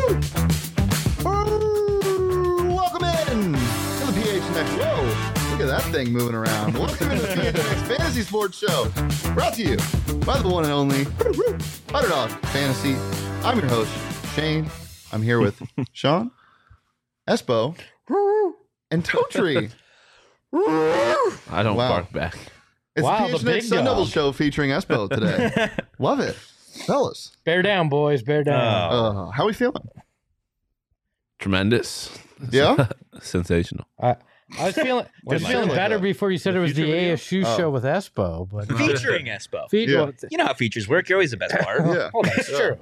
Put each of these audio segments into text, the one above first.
Welcome in to the PHNX. Whoa, look at that thing moving around. Welcome to the PHNX Fantasy Sports Show, brought to you by the one and only Underdog Fantasy. I'm your host, Shane. I'm here with Sean, Espo, and Totri. I don't bark back. It's Wow, the the big PHNX Sun Devil dog. Show featuring Espo today. Love it. Fellas, Bear down, boys. Bear down. how we feeling? Tremendous. Yeah? I Sensational. was feeling like better that. before you said it was the ASU show with Espo, but Featuring Espo. Yeah. You know how features work. You're always the best part. Yeah. Oh, that's true.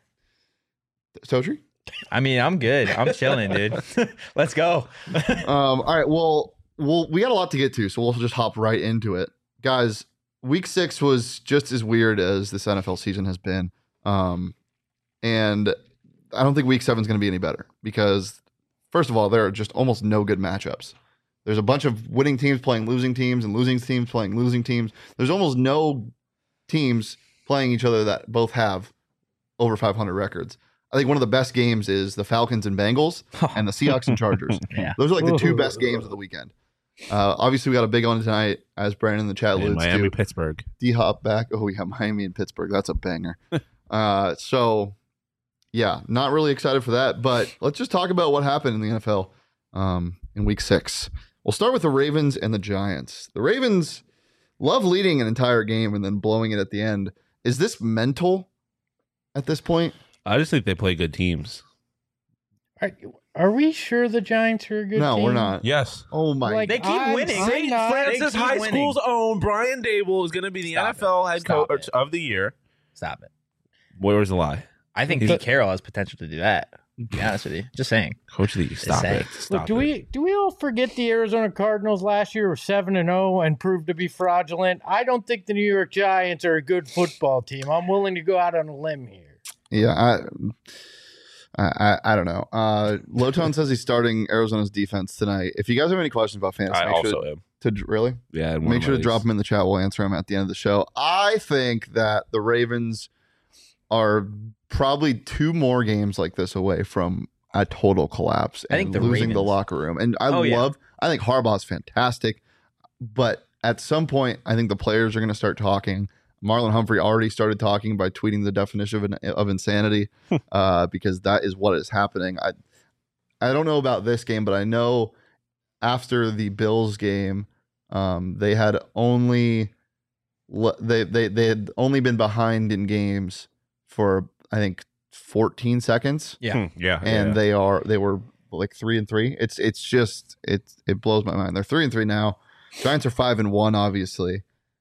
Totri? I mean, I'm good. I'm chilling, dude. Let's go. All right. Well, we got a lot to get to, so we'll just hop right into it. Guys, week 6 was just as weird as this NFL season has been. And I don't think week 7 is going to be any better because, first of all, there are just almost no good matchups. There's a bunch of winning teams playing losing teams and losing teams playing losing teams. There's almost no teams playing each other that both have over 500 records. I think one of the best games is the Falcons and Bengals and the Seahawks and Chargers. Yeah. Those are like the 2 best games of the weekend. Obviously, we got a big one tonight, as Brandon in the chat And alludes Miami, to. Pittsburgh. D-Hop back. Oh, yeah, Miami and Pittsburgh. That's a banger. So, yeah, not really excited for that. But let's just talk about what happened in the NFL in week 6. We'll start with the Ravens and the Giants. The Ravens love leading an entire game and then blowing it at the end. Is this mental at this point? I just think they play good teams. Are we sure the Giants are a good No, team? we're not. Yes. Oh, my Like, They keep winning. I'm St. not- Francis They keep High winning. School's own Brian Dable is going to be the Stop NFL head Stop coach it. of the year. Stop it. Where's the lie? I think He's- Pete Carroll has potential to do that. To be honest with you. Just saying. Coach of the year. Stop saying. it. Stop Look, it. do we all forget the Arizona Cardinals last year were 7-0 and proved to be fraudulent? I don't think the New York Giants are a good football team. I'm willing to go out on a limb here. Yeah, I don't know. Lowtone says he's starting Arizona's defense tonight. If you guys have any questions about fantasy, I make also sure am. really Yeah. in one make of sure my to drop leagues. them in the chat. We'll answer them at the end of the show. I think that the Ravens are probably 2 more games like this away from a total collapse I and think the losing the Ravens- locker room. And I Oh, I think Harbaugh's fantastic, but at some point, I think the players are going to start talking. Marlon Humphrey already started talking by tweeting the definition of insanity because that is what is happening. I don't know about this game, but I know after the Bills game, they had only they had only been behind in games for I think 14 seconds, Yeah. Yeah. and yeah. they were like 3-3. It blows my mind. They're 3-3 now. Giants are 5-1, obviously.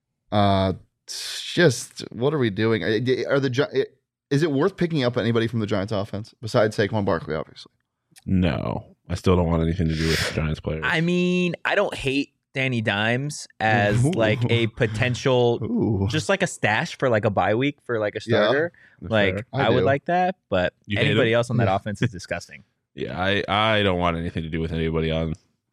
It's just what are we doing? Is it worth picking up anybody from the Giants offense besides Saquon Barkley, obviously? No. I still don't want anything to do with Giants players. I mean, I don't hate Danny Dimes as Ooh. like a potential, Ooh. just like a stash for like a bye week for like a Yeah. starter. Like I I would do. like that, but You hate anybody him? else on that Yeah. offense is disgusting. Yeah. I don't want anything to do with anybody on.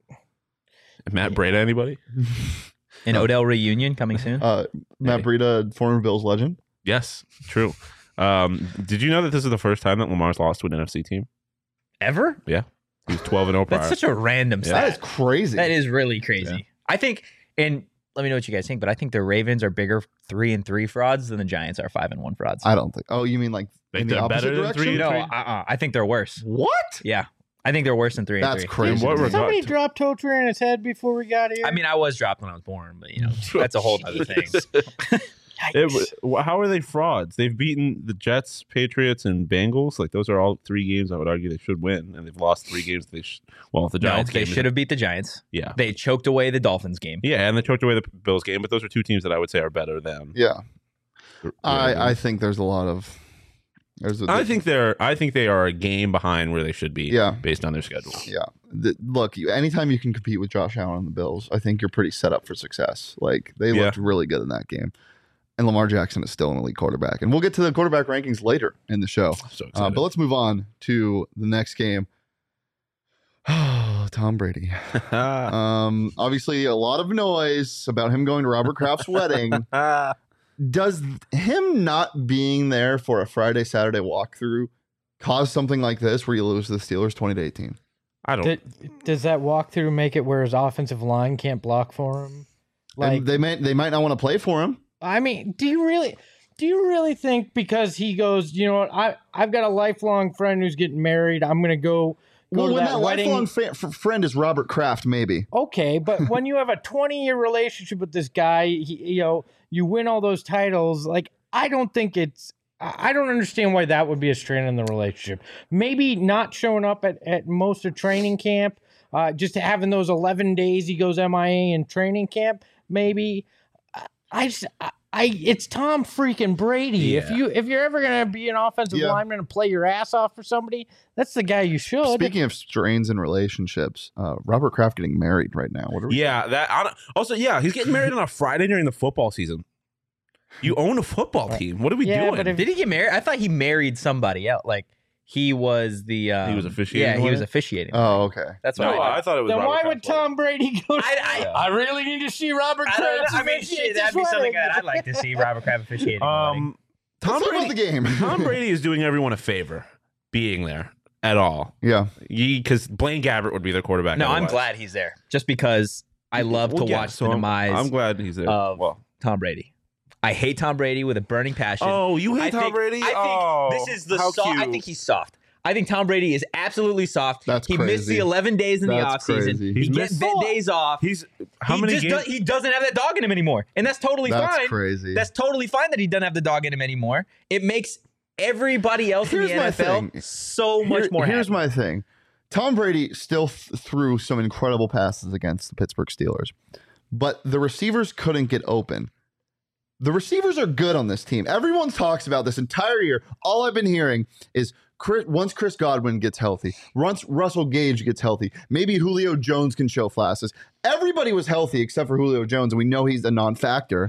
Matt Breda, anybody? An Odell reunion coming soon. Matt Breida, former Bills legend. Yes. True. Did you know that this is the first time that Lamar's lost to an NFC team? Ever? He was 12-0 prior. That's such a random Yeah. That is stat. crazy. That is really crazy. Yeah. I think, and let me know what you guys think, but I think the Ravens are bigger 3-3 frauds than the Giants are 5-1 frauds. I don't think. Oh, you mean like Think in the they're opposite better than direction? 3 no, three? I think they're worse. What? Yeah, I think they're worse than 3-3. That's crazy. In what Did regard? somebody drop Totri in his head before we got here? I mean, I was dropped when I was born, but you know, that's a whole other thing. How are they frauds? They've beaten the Jets, Patriots, and Bengals. Like those are all 3 games I would argue they should win, and they've lost 3 games. The No, Giants. they game should have beat the Giants. Yeah, They choked away the Dolphins game. yeah, and they choked away the Bills game. But those are 2 teams that I would say are better than. Yeah, the I think there's a lot of. I think they are a game behind where they should be. Yeah. based on their schedule. Yeah. Look, anytime you can compete with Josh Allen and the Bills, I think you're pretty set up for success. Like they looked really good in that game. And Lamar Jackson is still an elite quarterback. And we'll get to the quarterback rankings later in the show. So excited. But let's move on to the next game. Oh, Tom Brady. Obviously, a lot of noise about him going to Robert Kraft's wedding. Does him not being there for a Friday, Saturday walkthrough cause something like this where you lose to the Steelers 20-18. I don't. Does that walkthrough make it where his offensive line can't block for him? And they might not want to play for him. I mean, do you really think because he goes, you know what, I've got a lifelong friend who's getting married, I'm gonna go Well, to when that that wedding. lifelong friend is Robert Kraft, maybe. Okay, but when you have a 20-year relationship with this guy, you win all those titles. Like, I don't understand why that would be a strain in the relationship. Maybe not showing up at most of training camp, just having those 11 days he goes MIA in training camp. Maybe it's Tom freaking Brady. Yeah. If you're ever gonna be an offensive lineman and play your ass off for somebody, that's the guy you should. Speaking of strains in relationships, Robert Kraft getting married right now. What are we? Yeah, he's getting married on a Friday during the football season. You own a football team. What are we doing? but Did he get married? I thought he married somebody else. Like he was the. He was officiating. Yeah, he was officiating. Oh, okay. That's what No, I thought it was. then Robert why Kraft. would Tom Brady go? I really need to see Robert Kraft. I mean, shit, that'd be something that I'd like to see Robert Kraft officiating. Tom Let's talk about the game. Tom Brady is doing everyone a favor being there at all. Yeah. Because Blaine Gabbert would be their quarterback. No, I'm otherwise. glad he's there. Just because I love to watch the demise I'm glad he's there. of Tom Brady. I hate Tom Brady with a burning passion. Oh, you hate Tom Brady? I think this is the how soft. I cute. think he's soft. I think Tom Brady is absolutely soft. That's he missed crazy. the 11 days in the That's offseason. crazy. He He's gets missed- days off. He's how he many just games? he doesn't have that dog in him anymore, and that's totally That's fine. crazy. That's totally fine that he doesn't have the dog in him anymore. It makes everybody else Here's in the my NFL thing. so much more. Here's happy. my thing. Tom Brady still threw some incredible passes against the Pittsburgh Steelers, but the receivers couldn't get open. The receivers are good on this team. Everyone talks about this entire year. All I've been hearing is once Chris Godwin gets healthy, once Russell Gage gets healthy, maybe Julio Jones can show flashes. Everybody was healthy except for Julio Jones, and we know he's a non-factor.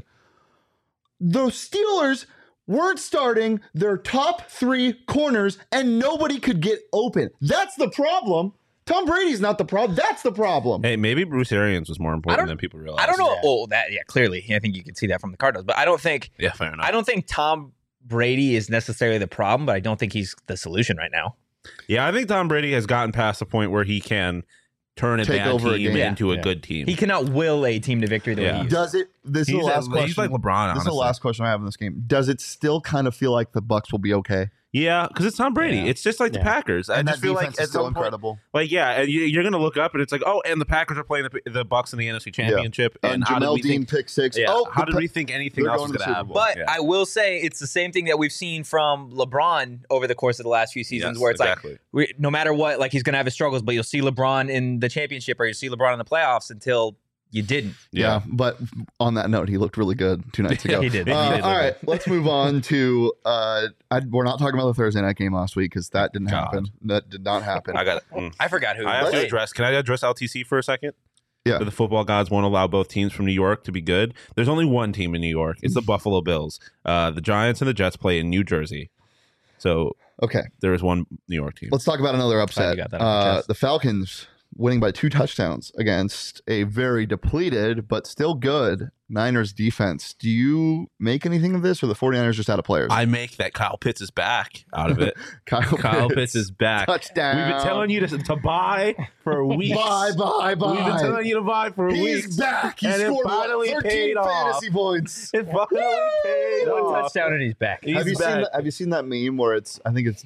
The Steelers weren't starting their top 3 corners, and nobody could get open. That's the problem. Tom Brady's not the problem. That's the problem. Hey, maybe Bruce Arians was more important than people realize. I don't know. Yeah. Oh, clearly, I think you can see that from the Cardinals, but I don't think Yeah, fair enough. I don't think Tom Brady is necessarily the problem, but I don't think he's the solution right now. Yeah, I think Tom Brady has gotten past the point where he can turn a Take bad over a team game. into a Yeah. good team. He cannot will a team to victory the way Yeah. he used. Does it? This is the last question. He's like LeBron, This is the honestly. last question I have in this game. Does it still kind of feel like the Bucs will be okay? Yeah, because it's Tom Brady. Yeah. It's just like the Yeah. Packers. I And just that feel defense like is at still some point, incredible. like, yeah, and you're going to look up and it's like, oh, and the Packers are playing the Bucs in the NFC Championship. And how did Jamel we Dean think? pick 6. Yeah, Oh, how did we think anything they're else was going to going the to Super happen? Bowl. But I will say it's the same thing that we've seen from LeBron over the course of the last few seasons, Yes, where it's exactly. like no matter what, like he's going to have his struggles, but you'll see LeBron in the championship or you'll see LeBron in the playoffs until you didn't. Yeah, but on that note, he looked really good 2 nights ago. He did. He did All look right, let's move on to. We're not talking about the Thursday night game last week because that didn't God. happen. That did not happen. I got. I forgot who. I have to played. address. Can I address LTC for a second? Yeah. The football gods won't allow both teams from New York to be good. There's only one team in New York. It's the Buffalo Bills. The Giants and the Jets play in New Jersey. So Okay, there is one New York team. let's talk about another upset. got that on your chest. The Falcons winning by 2 touchdowns against a very depleted but still good Niners defense. Do you make anything of this, or the 49ers just out of players? I make that Kyle Pitts is back out of it. Kyle Pitts is back. touchdown. We've been telling you to buy for weeks. Bye. We've been telling you to buy for He's weeks. back. He And it scored finally 13 paid off. fantasy points. It finally paid One off. touchdown and he's back. He's Have you back. seen that meme where it's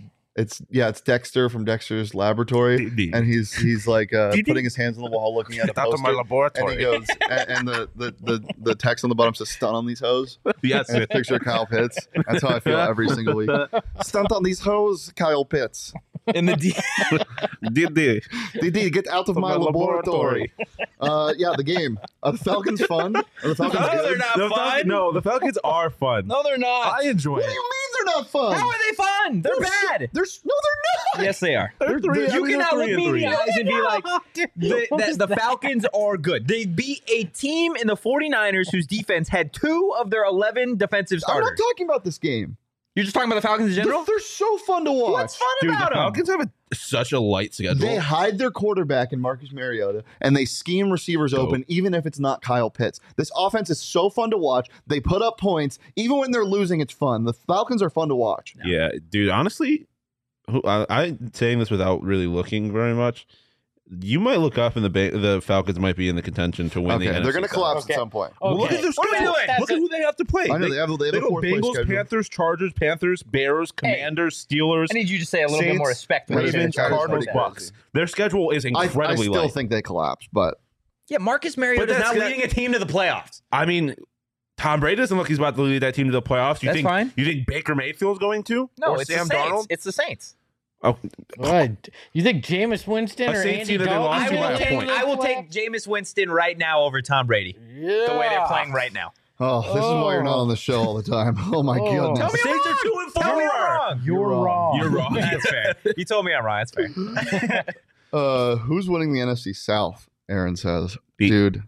Dexter from Dexter's Laboratory, and he's like putting his hands on the wall looking at a Out of my poster, and laboratory. he goes and the text on the bottom says "stunt on these hoes," Yes. and a picture of Kyle Pitts. That's how I feel every single week. Stunt on these hoes, Kyle Pitts. In the Did they? DD, get out of my laboratory. Yeah, the game. Are the Falcons fun? Are the Falcons No, good? they're not fun. No, the Falcons are fun. No, they're not. I enjoy What do it. you mean they're not fun? How are they fun? They're bad. No, they're not. Yes, they are. They're three- I You mean, they're cannot look 3 and me in 3. the eyes and be like, the Falcons are good. They beat a team in the 49ers whose defense had 2 of their 11 defensive I'm starters. not talking about this game. You're just talking about the Falcons in general? They're so fun to watch. What's fun Dude, about the them? Falcons have such a light schedule. They hide their quarterback in Marcus Mariota, and they scheme receivers open, even if it's not Kyle Pitts. This offense is so fun to watch. They put up points. Even when they're losing, it's fun. The Falcons are fun to watch. Yeah, dude, honestly, I'm saying this without really looking very much. You might look up and the Falcons might be in the contention to win the NFC. They're going to collapse Okay. at some point. Okay. Look at their What are we schedule. doing? Look at who they have to play. I know they have They a go fourth place Bengals, schedule. Panthers, Chargers, Panthers, Bears, Commanders, Steelers, I need you to say a little bit Saints, more respect. Ravens, Ravens, Chargers, Cardinals, like Bucks. Their schedule is I incredibly still light. think they collapse, but Yeah, Marcus Mariota But is that's now got- leading a team to the playoffs. I mean, Tom Brady doesn't look he's about to lead that team to the playoffs. You That's think fine. You think Baker Mayfield's going to? No, or it's Sam the Saints. Darnold? It's the Saints. Oh, What? You think Jameis Winston A or Saints Andy team that they Dalton? lost I to by will a take point. I will take Jameis Winston right now over Tom Brady. Yeah. The way they're playing right now. this is why you're not on the show all the time. Oh my Oh. goodness. Tell me Saints I'm are wrong. 2-4. Tell me I'm wrong. You're wrong. You're wrong. That's fair. You told me I'm wrong. That's fair. Who's winning the NFC South? Aaron says, The- dude.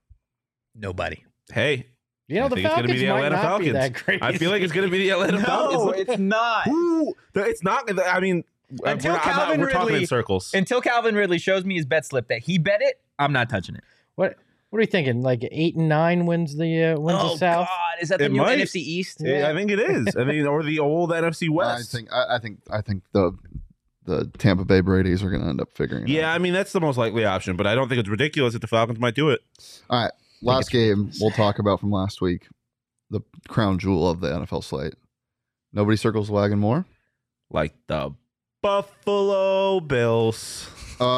Nobody. Hey, You know, I the think it's gonna Falcons be the might Atlanta not be Falcons. that great. I feel like it's going to be the Atlanta Falcons. it's not. Ooh, it's not. I mean, Until we're Calvin we're talking Ridley- in circles. Until Calvin Ridley shows me his bet slip that he bet it, I'm not touching it. What are you thinking? Like 8 and 9 wins the Oh South. God, is that the It new might. NFC East? I think it is. I mean, or the old NFC West. I think the Tampa Bay Brady's are going to end up figuring it Yeah, out. I mean that's the most likely option, but I don't think it's ridiculous that the Falcons might do it. All right. Last game we'll talk about from last week. The crown jewel of the NFL slate. Nobody circles the wagon more. Like the Buffalo Bills.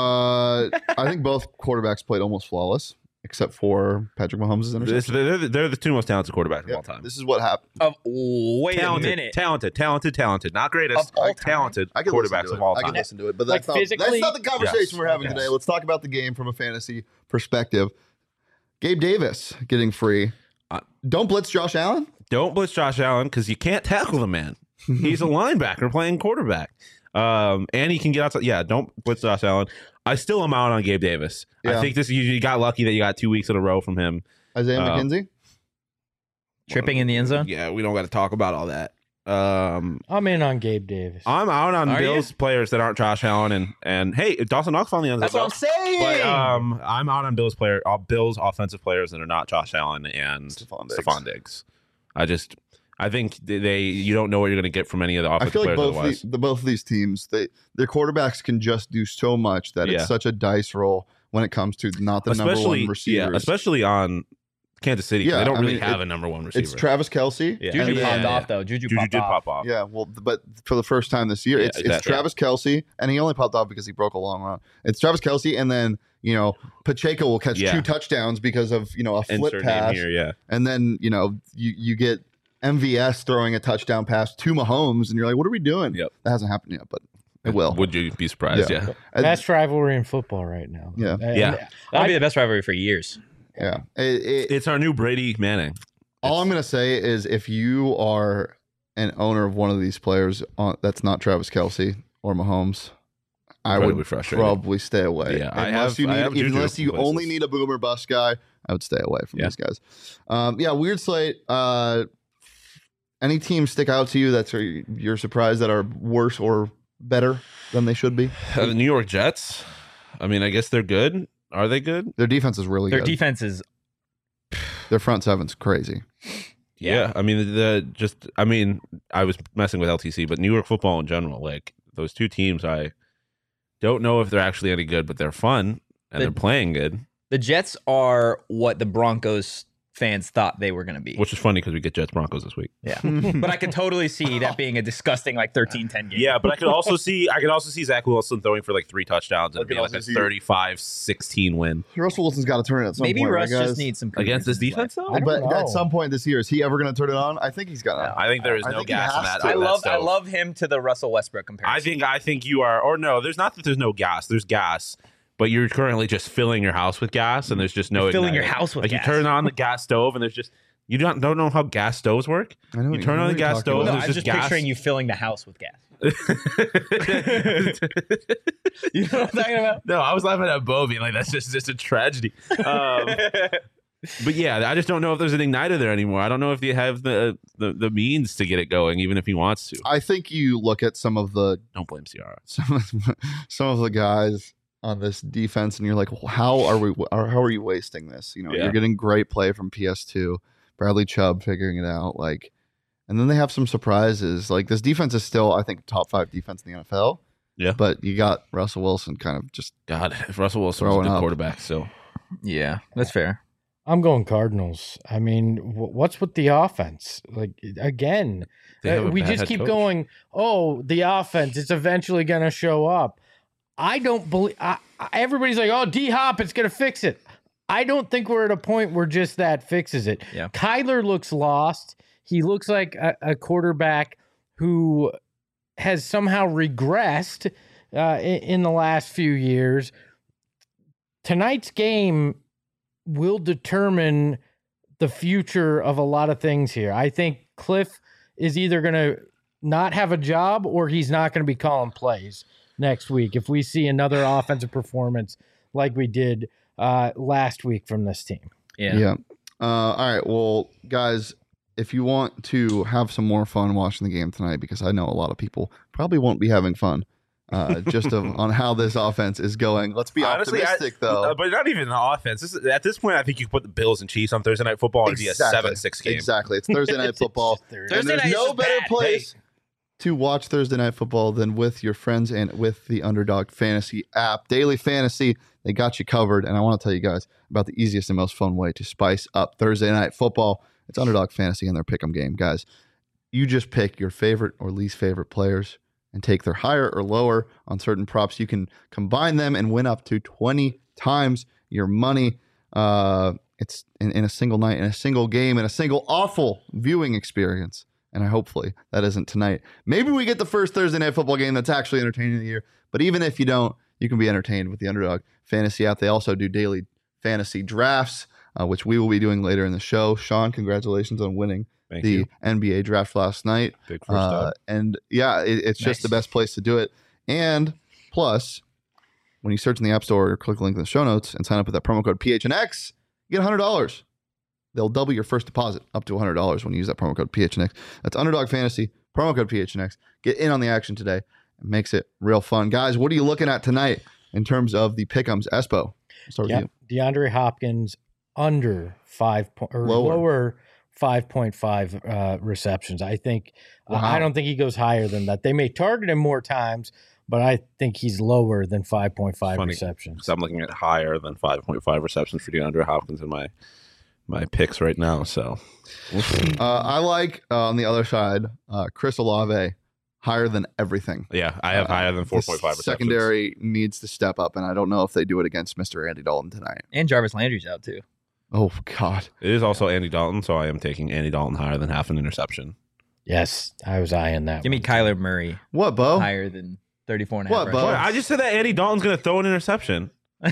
I think both quarterbacks played almost flawless, except for Patrick Mahomes' interception. They're the two most talented quarterbacks of Yeah, all time. this is what happened. Wait a minute. Talented. Not greatest. Of all time? Talented I could listen quarterbacks to of it. all I time. can listen to it, but Like that's physically? not the conversation Yes. we're having today. Let's talk about the game from a fantasy perspective. Gabe Davis getting free. Don't blitz Josh Allen. Don't blitz Josh Allen because you can't tackle the man. He's a linebacker playing quarterback. And he can get outside. Yeah, don't blitz Josh Allen. I still am out on Gabe Davis. Yeah. I think you got lucky that you got 2 weeks in a row from him. Isaiah McKenzie. Tripping in the end zone? Yeah, we don't got to talk about all that. I'm in on Gabe Davis. I'm out on Are Bills players that aren't Josh Allen and hey, Dawson Knox found the end That's what I'm saying. But I'm out on Bills offensive players that are not Josh Allen and Stephon Diggs. Diggs. I think you don't know what you're going to get from any of the I offensive feel like players otherwise. both of these teams, their quarterbacks can just do so much that Yeah. it's such a dice roll when it comes to not the number one receivers. Yeah, especially on Kansas City. 'Cause Yeah, they don't I really mean, have a number one receiver. It's Travis Kelce. Yeah. Juju and popped then- off though. Juju Juju popped did off. pop off. Yeah, well, but for the first time this year, Yeah, it's exactly. Travis Kelce, and he only popped off because he broke a long run. It's Travis Kelce, and then Pacheco will catch Yeah. 2 touchdowns because of a flip Insert pass, name here, yeah. and then you get MVS throwing a touchdown pass to Mahomes, and you're like, what are we doing? Yep. That hasn't happened yet, but it will. Would you be surprised? Yeah. Yeah. And- Best rivalry in football right now. Yeah. Yeah. That'll be the best rivalry for years. yeah. It's our new Brady Manning. All I'm gonna say is, if you are an owner of one of these players that's not Travis Kelce or Mahomes, I Probably would frustrated. probably stay away. Yeah, I unless have Juju unless you places. only need a boomer bust guy, I would stay away from Yeah. these guys. Weird slate. Any teams stick out to you that you're surprised that are worse or better than they should be? The New York Jets. I mean, I guess they're good. Are they good? Their defense is really Their good. defense is Their front seven's crazy. Yeah. I mean, I was messing with LTC, but New York football in general, like those two teams, I don't know if they're actually any good, but they're fun and they're playing good, the Jets are what the Broncos fans thought they were going to be. which is funny because we get Jets Broncos this week. Yeah. But I could totally see that being a disgusting 13-10 game. Yeah, but I could also see Zach Wilson throwing for like 3 touchdowns and I it being could like a also see- 35-16 win Russell Wilson's got to turn it at some Maybe point. Russ right, guys? just needs some against this confidence in his defense life. though. I don't But know. at some point this year, is he ever going to turn it on? I think he's got to. I think there is I no think he gas in has that. to. I love him to the Russell Westbrook comparison. I think you are, or no, there's not that there's no gas. There's gas, but you're currently just filling your house with gas, and there's just no You're filling igniter. your house with like gas. you turn on the gas stove, and there's just you don't know how gas stoves work. I know You turn on the gas stove. No, there's I'm just gas. picturing you filling the house with gas. You know what I'm talking about? No, I was laughing at Bo being like, that's just a tragedy. But yeah, I just don't know if there's an igniter there anymore. I don't know if you have the means to get it going, even if he wants to. I think you look at some of the Don't blame Ciara. some of the guys on this defense, and you're like, how are you wasting this? Yeah. You're getting great play from PS2, Bradley Chubb figuring it out. Like, And then they have some surprises. Like this defense is still, I think, top 5 defense in the NFL. Yeah. But you got Russell Wilson kind of just God, if Russell Wilson was a Throwing good up. quarterback still. Yeah, that's fair. I'm going Cardinals. I mean, what's with the offense? Like again, They have a we bad just head keep coach. going. Oh, the offense. It's eventually going to show up. I don't believe. Everybody's like, oh, D Hop, it's going to fix it. I don't think we're at a point where just that fixes it. Yeah. Kyler looks lost. He looks like a quarterback who has somehow regressed in the last few years. Tonight's game will determine the future of a lot of things here. I think Cliff is either going to not have a job or he's not going to be calling plays next week if we see another offensive performance like we did last week from this team. Yeah. All right. Well, guys, if you want to have some more fun watching the game tonight, because I know a lot of people probably won't be having fun on how this offense is going. Let's be Honestly, optimistic, though. But not even the offense. At this point, I think you could put the Bills and Chiefs on Thursday Night Football and be a 7-6 game. Exactly. It's Thursday Night Football. And Thursday there's night no is better bad. place to watch Thursday Night Football than with your friends and with the Underdog Fantasy app. Daily Fantasy, they got you covered. And I want to tell you guys about the easiest and most fun way to spice up Thursday Night Football. It's Underdog Fantasy and their pick'em game. Guys, you just pick your favorite or least favorite players and take their higher or lower on certain props. You can combine them and win up to 20 times your money. It's in a single night, in a single game, in a single awful viewing experience. And hopefully that isn't tonight. Maybe we get the first Thursday Night Football game that's actually entertaining of the year. But even if you don't, you can be entertained with the Underdog Fantasy app. They also do daily fantasy drafts, which we will be doing later in the show. Sean, congratulations on winning Thank the you. NBA draft last night. Big first up. And yeah, it's just the best place to do it. And plus, when you search in the App Store or click the link in the show notes and sign up with that promo code PHNX, you get $100. They'll double your first deposit up to $100 when you use that promo code PHNX. That's Underdog Fantasy, promo code PHNX. Get in on the action today. It makes it real fun. Guys, what are you looking at tonight in terms of the pick'ems? Espo, I'll start with you. DeAndre Hopkins under lower 5.5 receptions. I think Wow. I don't think he goes higher than that. They may target him more times, but I think he's lower than 5.5 Funny. receptions. So I'm looking at higher than 5.5 receptions for DeAndre Hopkins in my picks right now. So I like, on the other side, Chris Olave higher than everything. yeah, I have higher than 4.5 The receptions. secondary needs to step up, and I don't know if they do it against Mr. Andy Dalton tonight. And Jarvis Landry's out too. Oh, God. It is also Andy Dalton, so I am taking Andy Dalton higher than half an interception. Yes, I was eyeing that. Give me one. Kyler Murray What, Bo? higher than 34 and a What, half. Bo? Boy, I just said that Andy Dalton's going to throw an interception.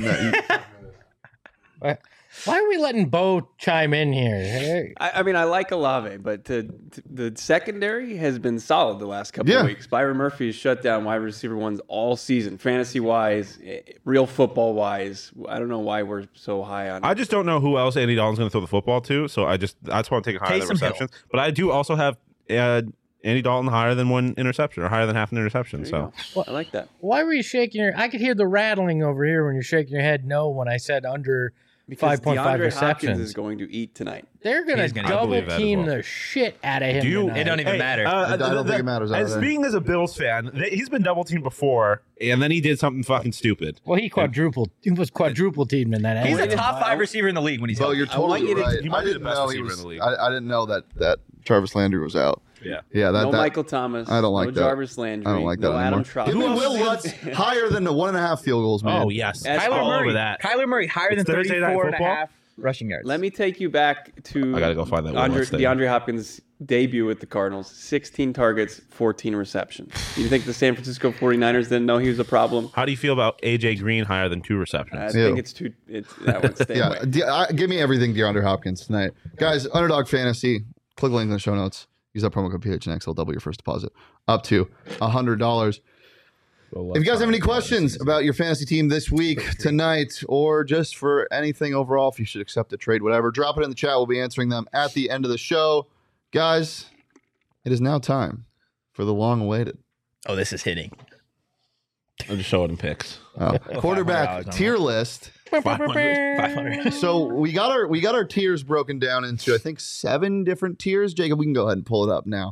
Why are we letting Bo chime in here? I mean, I like Olave, but the secondary has been solid the last couple Yeah. of weeks. Byron Murphy has shut down wide receiver ones all season, fantasy-wise, real football-wise. I don't know why we're so high on I just don't know who else Andy Dalton's going to throw the football to, so that's why I'm taking higher than Taysom Hill. receptions. But I do also have Andy Dalton higher than one interception or higher than half an interception. There So you go. I like that. Why were you shaking your? I could hear the rattling over here when you're shaking your head. No, when I said under Because 5.5 DeAndre Hopkins receptions. is going to eat tonight. They're gonna He's gonna- I double believe that as team well. the shit out of him. do you? tonight. It don't even matter. I don't think it matters And either. speaking as a Bills fan, he's been double teamed before, and then he did something fucking stupid. Well, he was quadruple teamed in that. He's a anyway. top 5 receiver in the league when he's Bo, healthy. you're I want totally you to- right. he might I be the didn't best know he receiver was. in the league. I didn't know that Jarvis Landry was out. Yeah. Yeah, No Michael Thomas. I don't like no that. Jarvis Landry. I don't like that no Adam anymore. Trout. Give me Who else Will is Lutz higher than the 1.5 field goals, man. Oh yes, That's I'm Kyler all Murray. over that. Kyler Murray higher It's than Thursday Night 34 and a Football? half rushing yards. Let me take you back to I gotta go find that Will Lutz thing. DeAndre Hopkins' debut with the Cardinals. 16 targets, 14 receptions. You think the San Francisco 49ers didn't know he was a problem? How do you feel about AJ Green higher than 2 I receptions? think that one stay Yeah, away. give me everything DeAndre Hopkins tonight. Guys, Underdog Fantasy, click the link in the show notes. Use that promo code PHNX. They'll double your first deposit up to $100. If you guys have any questions about your fantasy team this week, tonight, or just for anything overall, if you should accept a trade, whatever, drop it in the chat. We'll be answering them at the end of the show. Guys, it is now time for the long-awaited Oh, this is hitting. I'm just showing him picks. Quarterback $500 tier list. 500. So we got our tiers broken down into I think 7 different tiers. Jacob, we can go ahead and pull it up now.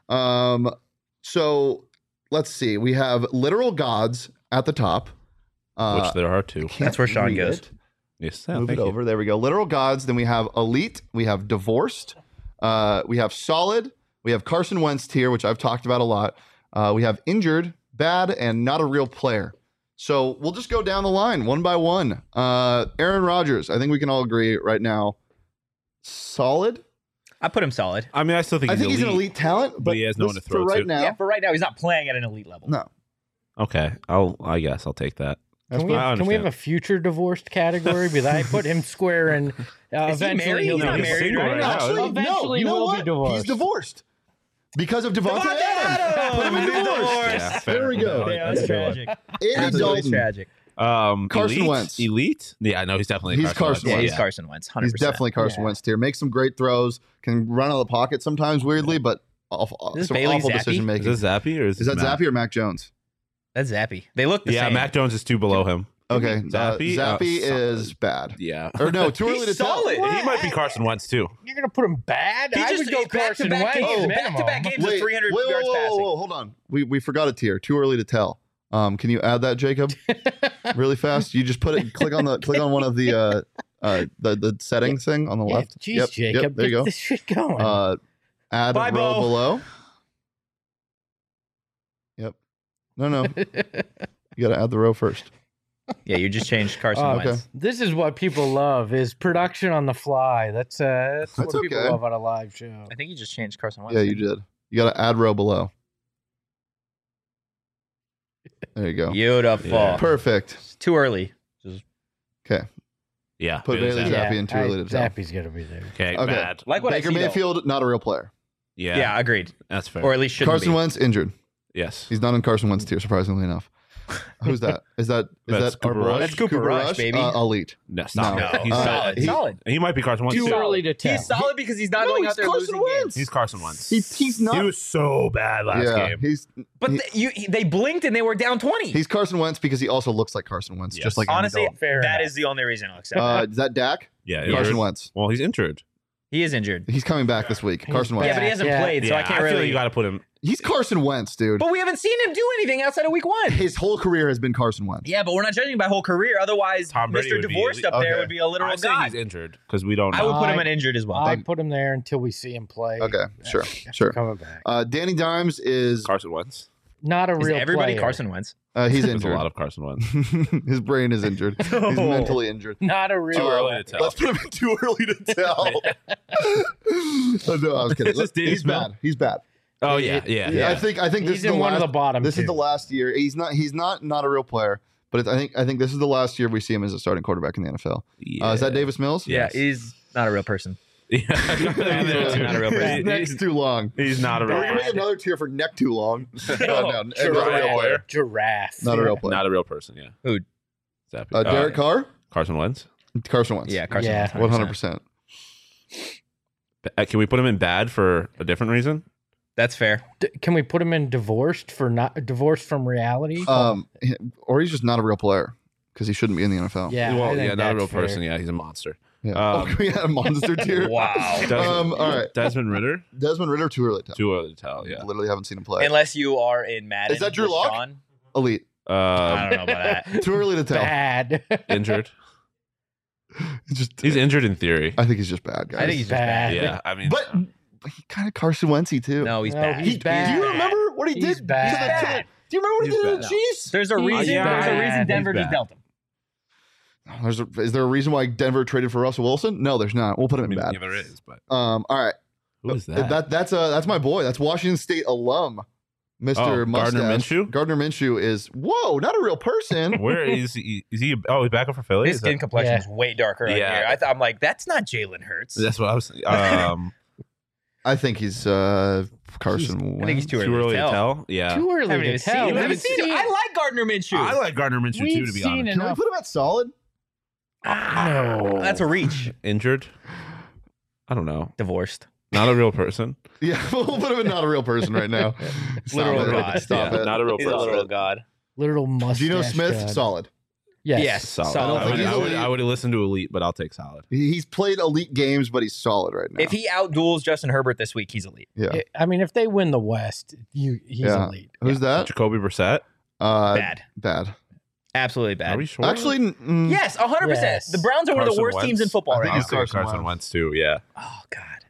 So let's see. We have literal gods at the top. Which there are 2. That's where Sean Read goes. it. Yes, Move thank it you. over. There we go. Literal gods. Then we have elite. We have divorced. We have solid. We have Carson Wentz tier, which I've talked about a lot. We have injured, bad, and not a real player. So we'll just go down the line one by one. Aaron Rodgers. I think we can all agree right now. Solid. I put him solid. I mean, I still think I think he's an elite talent, but he has no one to throw for right to. now. Yeah, for right now, he's not playing at an elite level. No. Okay, I guess I'll take that. Can we I have a understand. future divorced category? Because I put him square in. Is he Eventually, married? he'll He's be not divorced. married right now. Actually, Eventually, no. You know we'll what? be divorced. He's divorced because of Devontae Adams. Put him in divorce. Yeah, fair. There we go. Yeah, that's tragic. Andy Absolutely Dalton. tragic. Carson elite? Wentz. Elite? Yeah, no, he's definitely He's Carson Yeah, Wentz. he's Carson Wentz. 100%. He's definitely Carson Yeah. Wentz tier. Makes some great throws. Can run out of the pocket sometimes weirdly, but awful, Is this some Bailey awful Zappi? decision Is making. this Zappy or is Is that Mac? Zappy or Mac Jones? That's Zappy. They look the Yeah, same. Mac Jones is 2 below him. Okay, Zappy? Zappy Solid. is bad. Yeah. Or no, too early to He's tell. solid. He might be Carson Wentz too. You're gonna put him bad? He I just would go Carson back-to-back Wentz. games. minimum. Back-to-back games with 300 yards passing. Hold on. We forgot a tier. Too early to tell. Can you add that, Jacob? Really fast. You just put it. Click on one of the settings thing on the Yeah, left. Jeez, Jacob, Yep, there you get go. this shit going. Add Bye, row Bo. below. Yep. No. You got to add the row first. Yeah, you just changed Carson Oh, okay. Wentz. This is what people love: is production on the fly. That's what people okay. love on a live show. I think you just changed Carson Wentz. Yeah, you did. You got to add row below. There you go. Beautiful. Yeah. Perfect. It's too early. Okay. Yeah. Put Bailey Zappi. Zappi in too early to tell. Zappy's gonna be there. Okay, Okay. bad. Like what Baker I see, though. Mayfield, not a real player. Yeah. Yeah, agreed. That's fair. Or at least shouldn't Carson be. Wentz injured. yes. He's not in Carson Wentz tier, surprisingly enough. Who's that? Is That's that our Cooper boy? Rush. That's Cooper Rush, baby. Elite. No, stop No. it. No, He's solid. he- solid. He might be Carson Wentz. Too too. early to tell. He's solid because he's not No, going he's out there Carson losing Wentz. games. He's Carson Wentz. He's not. He was so bad last yeah, game. he's But he- they blinked and they were down 20. he's Carson Wentz because he also looks like Carson Wentz, Yes. just like Andy Honestly, Dalton. Fair that enough. is the only reason I'll accept that. Is that Dak? Yeah. Carson injured. Wentz. Well, he's injured. He is injured. He's coming back this week. Carson Wentz. Yeah, but he hasn't Yeah. played, so I can't feel really. like you got to put him. He's Carson Wentz, dude. But we haven't seen him do anything outside of week 1. His whole career has been Carson Wentz. Yeah, but we're not judging by whole career. Otherwise, Tom Brady Mr. would be Divorced elite. up there Okay. would be a literal I say god. he's injured because we don't I know. would put him I- in injured as well. I put him there until we see him play. Okay, sure, After sure. Coming back. Danny Dimes is Carson Wentz. Not a Is real everybody player. Carson Wentz? he's There's a injured. lot of Carson Wentz. His brain is injured. He's No. mentally injured. Not a real. Too early to tell. Let's put him in too early to tell. Oh, no, I was kidding. Is this Dave He's Smith? bad. He's bad. Oh yeah. I think this He's is the in one last, of the bottom This is two. the last year. He's not a real player, but I think this is the last year we see him as a starting quarterback in the NFL. Is that Davis Mills? Yeah. Yeah, he's not a real person. Yeah. Not a real person. His neck's too long. He's not a We're real gonna make person. another tier for neck too long. No, not a real Giraffe. player. Giraffe. Not a real player. Not a real person. Yeah. Who? Zappy. Derek Carr, Carson Wentz. Carson Wentz. Yeah, Carson Yeah. Wentz. 100%. Can we put him in bad for a different reason? That's fair. Can we put him in divorced from reality? Or he's just not a real player because he shouldn't be in the NFL. yeah. well, I think yeah, not a that's real fair. person. Yeah, he's a monster. Yeah. Um, We had a monster tier. Wow. Desmond, all right. Desmond Ritter. Desmond Ritter, too early to tell. Too early to tell. Yeah. Literally haven't seen him play. Unless you are in Madden. Is that Drew with Lock? Sean. Elite. I don't know about that. Too early to tell. Bad. Injured. He's injured in theory. I think he's just bad, guys. I think he's just bad. Yeah. I mean, But he kind of Carson Wentzy too. No, he's No, bad. he's bad. Do you remember what he He's did? bad. Do you remember what he He's did to bad. the Chiefs? There's a He's reason. bad. There's a reason He's Denver just bad. dealt him. Is there a reason why Denver traded for Russell Wilson? No, there's not. We'll put him I in mean, bad. yeah, there is, but All right. who is that? That's my boy. That's Washington State alum, Mr. Oh, Mustache. Gardner Minshew? Gardner Minshew is not a real person. Where is he? Is he? Oh, he's back up for Philly. His Is skin that- complexion Yeah. is way darker on Yeah. here. I'm like, that's not Jalen Hurts. That's what I was. I think he's Carson Wentz. I think he's too Too early to tell. Yeah. Too early Haven't to even tell. seen him. We've Haven't seen him. seen- I like Gardner Minshew. I like Gardner Minshew too, We've to be seen honest. it. Can we put him at solid? No. That's a reach. Injured. I don't know. Divorced. Not a real person. Yeah, we'll put him in not a real person right now. Stop Literal it. god. Stop Yeah, it. Not a real He's a person. literal god. Literal mustache. Geno Smith, god. solid. Yes. Solid. Solid. I don't think he's elite. I would have listened to elite, but I'll take solid. He's played elite games, but he's solid right now. If he outduels Justin Herbert this week, he's elite. yeah. I mean, if they win the West, he's Yeah. elite. Who's that? Jacoby Brissett. Bad. Bad. Absolutely bad. Are we sure? Actually, Yes, 100%. Yes. The Browns are one of the Carson worst teams in Wentz. football I right think now. he's Carson Carson Wentz. Wentz too. Yeah. Oh, God.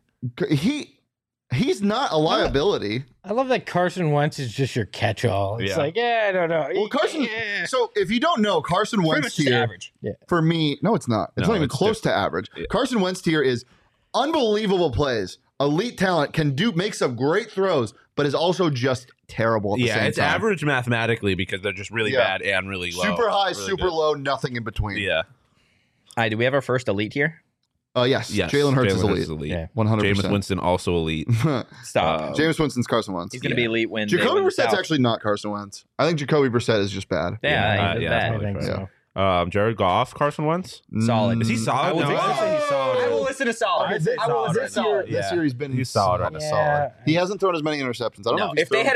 he's not a liability. I love that Carson Wentz is just your catch-all. It's Yeah. like, I don't know. Well, Carson. Yeah. So if you don't know, Carson Pretty Wentz much just tier average. for me, no, it's not. It's No, not even it's close to average. Yeah. Carson Wentz tier is unbelievable plays, elite talent, can make some great throws, but is also just terrible at the Yeah, same it's time. average mathematically because they're just really Yeah. bad and really low. Super high, Really super good. low, nothing in between. Yeah. All right, do we have our first elite here? Yes. Yes. Jalen Hurts is elite. Yeah. 100%. Jameis Winston also elite. Stop. Jameis Winston's Carson Wentz. He's going to be elite when Jacoby they win the Brissett's South. actually not Carson Wentz. I think Jacoby Brissett is just bad. Yeah, Yeah, he's yeah, bad. I totally think fair. so. Jared Goff, Carson Wentz. Solid. Is he solid? I will No, take- I'd say he's solid. I will listen to solid. Okay, I will listen to this year, solid. this year he's been He's solid right now. Yeah. solid. He hasn't thrown as many interceptions. I don't know No, if, he's if they thrown- had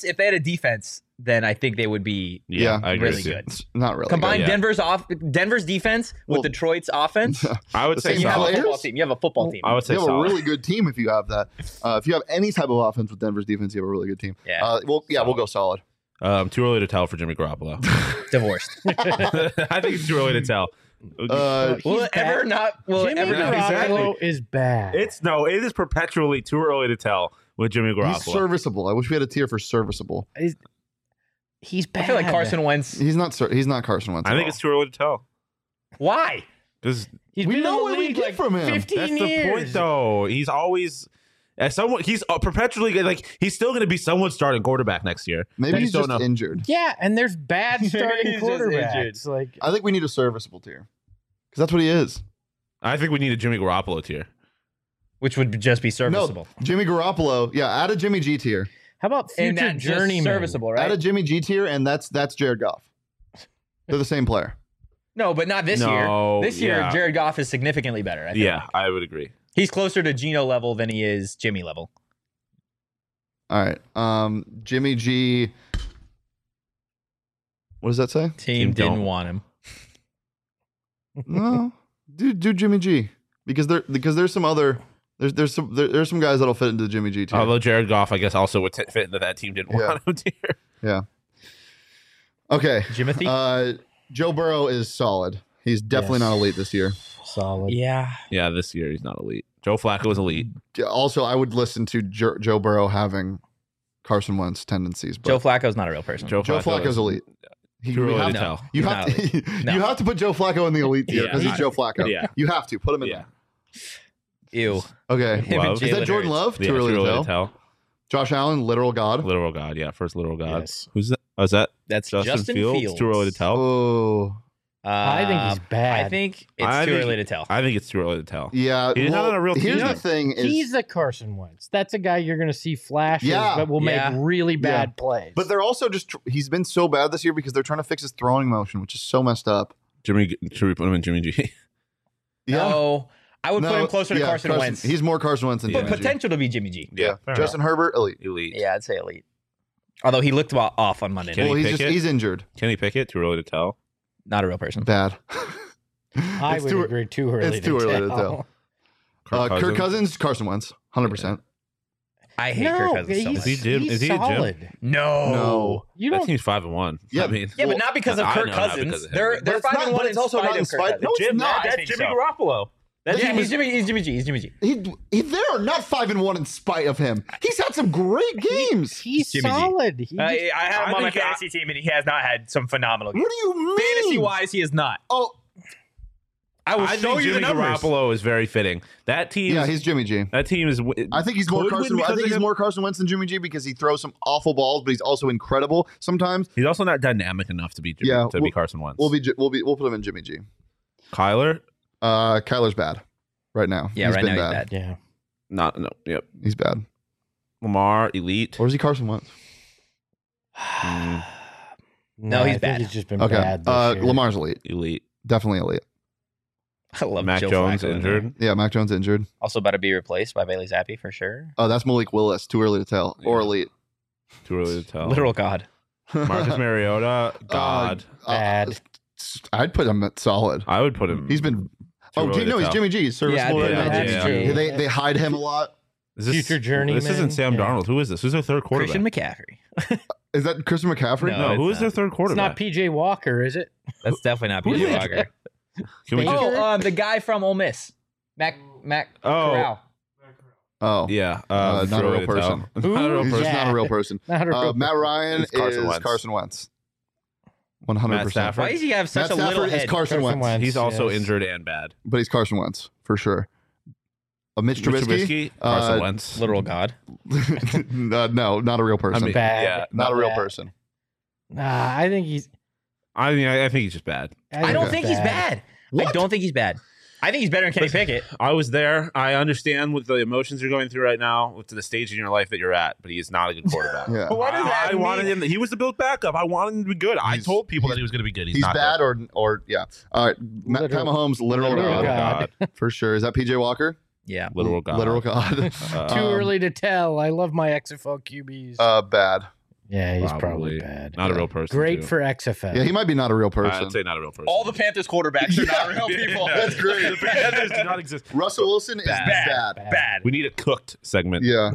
a defense, then I think they would be Yeah, I agree really with you. good. It's not really Combine good. Denver's defense with Well- Detroit's offense. I would The say same You have a solid. players? football team. You have a football team. I would say You have a solid. really good team if you have that. If you have any type of offense with Denver's defense, you have a really good team. Yeah. We'll go solid. Too early to tell for Jimmy Garoppolo. Divorced. I think it's too early to tell. Uh, Will it ever not? Will it Jimmy ever not be Garoppolo is bad. It is perpetually too early to tell with Jimmy he's Garoppolo. serviceable. I wish we had a tier for serviceable. He's bad. I feel like Carson Wentz. He's not Carson Wentz. I at think all. it's too early to tell. Why? Because He's We been know in the what we league get like from him. 15 that's years. the point, though. He's always as someone. He's perpetually he's still going to be someone's starting quarterback next year. Maybe I he's just don't just know. injured. Yeah, and there's bad starting He's just injured. quarterbacks. Like I think we need a serviceable tier because that's what he is. I think we need a Jimmy Garoppolo tier. Which would just be serviceable. No, Jimmy Garoppolo. Yeah, add a Jimmy G tier. how about And future that's just journeyman? serviceable, Add a right? Jimmy G tier, and that's Jared Goff. They're the same player. No, but not this No, year. This year, yeah. Jared Goff is significantly better. I think. Yeah, I would agree. He's closer to Geno level than he is Jimmy level. All right. Jimmy G. What does that say? Team Team didn't don't. want him. No, do Jimmy G because there's some other there's some guys that'll fit into the Jimmy G tier. Although Jared Goff, I guess, also would fit into that team didn't want him tier. Yeah. Okay. Jimothy? Joe Burrow is solid. He's definitely Yes. not elite this year. Solid. Yeah. Yeah, this year he's not elite. Joe Flacco is elite. Also, I would listen to Joe Burrow having Carson Wentz tendencies. But Joe Flacco's not a real person. Joe Joe Flacco Flacco's is elite. Too we early have to to- tell. You He's have not to No. you have to put Joe Flacco in the elite tier Yeah. because he's Joe Flacco. Yeah. You have to put him in Yeah. Ew. there. Okay. Him and Love. Is that Jalen Jordan Hurts. Love? Yeah, Too early to tell. Josh Allen, literal god. Literal God. Yeah, first literal God. Yes. Who's that? Oh, is that That's Justin Fields? Too early to tell. Oh, I think he's bad. I think it's I too think- early to tell. I think it's too early to tell. yeah. He's not on a real Here's team. the thing: is He's a Carson Wentz. That's a guy you're going to see flashes, Yeah. but will Yeah. make really bad plays. But they're also he's been so bad this year because they're trying to fix his throwing motion, which is so messed up. Should we put him in Jimmy G? No. I would put No, him closer to yeah, Carson Wentz. He's more Carson Wentz than but Jimmy G. potential to be Jimmy G. Yeah. fair Justin Herbert, elite. Elite. Yeah, I'd say elite. Although he looked off on Monday Kenny night. Well, Pickett? he's injured. Kenny Pickett? Too early to tell. Not a real person. Bad. I It's would too- agree too early. it's too early to tell. Kirk Cousins, Carson Wentz, 100%. I hate No, Kirk Cousins so he's, much. Is he Jim? he's Is he a Jim? solid. No. No. You That don't. team's 5-1. Yeah, I mean, Yeah, but not because of I Kirk know, not Cousins. because of him. They're But it's not- 5-1 but it's also not in of Kirk spite- Cousins. no, it's not. That's Jimmy Garoppolo. Yeah, he's Jimmy G. He's Jimmy G. They are not 5-1 in spite of him. He's had some great games. He's Jimmy G. solid. He I just- have him on my think I- fantasy team, and he has not had some phenomenal games. What do you mean? Fantasy-wise, he is not. Oh, I will I show think you the Jimmy numbers. Garoppolo is very fitting. That team. yeah, he's Jimmy G. That team is. I think he's more could Carson. win I because think of he's him. more Carson Wentz than Jimmy G because he throws some awful balls, but he's also incredible sometimes. He's also not dynamic enough to be Jimmy, Yeah, to be Carson Wentz. We'll put him in Jimmy G. Kyler. Kyler's bad right now. Yeah, He's right been now he's bad. yeah. Not no. Yep. He's bad. Lamar elite. Or is he Carson Wentz? No, he's I think bad. He's just been Okay. bad. This year. Lamar's elite. Elite. Definitely elite. I love Mac Joe Jones Flacco in there. injured. Yeah, Mac Jones injured. Also about to be replaced by Bailey Zappi for sure. That's Malik Willis. Too early to tell. Or Yeah. elite. Too early to tell. Literal god. Marcus Mariota, God. Bad. I'd put him at solid. I would put him. He's been. Too early to He's tell. Jimmy G. He's serviceable right now. That's true. They hide him a lot. Is this, Future journeyman. This isn't Sam Yeah. Darnold. Who is this? Who's their third quarterback? Christian McCaffrey. Is that Christian McCaffrey? No. No, who it's is their not. third It's quarterback? not PJ Walker, is it? That's definitely not Who is PJ it? Walker. Can we just, The guy from Ole Miss, Mac Oh. Corral. Oh, yeah, not a too early real to person. tell. Not a real He's person. just not a real person. Not a real Matt Ryan It's Carson is Wentz. Carson Wentz. 100%. Matt Stafford. Why does he have such Matt a little Stafford is head? Carson Wentz. He's also yes. injured and bad. But he's Carson Wentz for sure. Mitch Mitch Trubisky. Carson Wentz. Literal god. No, not a real person. I mean, Bad. yeah. not a real Bad. person. Nah, I think he's. I mean, I think he's just bad. I don't think he's bad. I don't think he's bad. I think he's better than Kenny Pickett. I was there. I understand what the emotions you're going through right now with the stage in your life that you're at, but he is not a good quarterback. Yeah. What does that I wanted him. He was the Bills' backup. I wanted him to be good. I He's- told people that he was going to be good. He's not bad good. or yeah. All right. Pat Literal- Mahomes, literal literal god. God. For sure. Is that PJ Walker? Yeah. Literal god. Literal god. Too early to tell. I love my XFL QBs. Bad. yeah, he's Probably. probably bad. Not a real person. Great too. for XFL. Yeah, he might be not a real person. I'd say not a real person. All the Panthers quarterbacks are not real people. That's great. The Panthers do not exist. Russell Wilson is bad. Bad. We need a cooked segment. Yeah.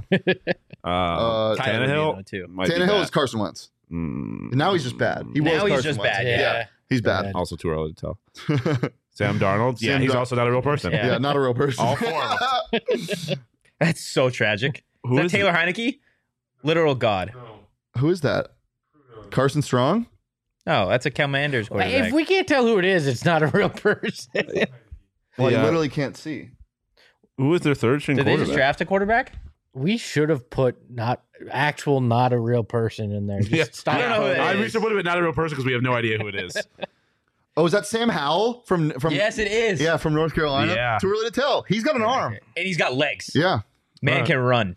Tyler Tannehill Rubino, too. might be Tannehill bad. is Carson Wentz. Mm, Now he's just bad. He Now was he's Carson just Wentz. bad. Yeah. He's bad. also too early to tell. Sam Darnold. Yeah, Sam he's Dar- also not a real person. Yeah. Yeah, not a real person. All four of That's so tragic. Who is is that Taylor Heineke? Literal god. Who is that? Carson Strong? Oh, that's a Commanders quarterback. If we can't tell who it is, it's not a real person. Well, Yeah. you literally can't see. Who is their third string Did they quarterback? just draft a quarterback? We should have put not a real person in there. Just Yeah. stop. I don't know who that We is. should put him not a real person because we have no idea who it is. Oh, is that Sam Howell from Yes, it is. Yeah, from North Carolina? Yeah. Too early to tell. He's got an arm. And he's got legs. Yeah. Man Right. can run.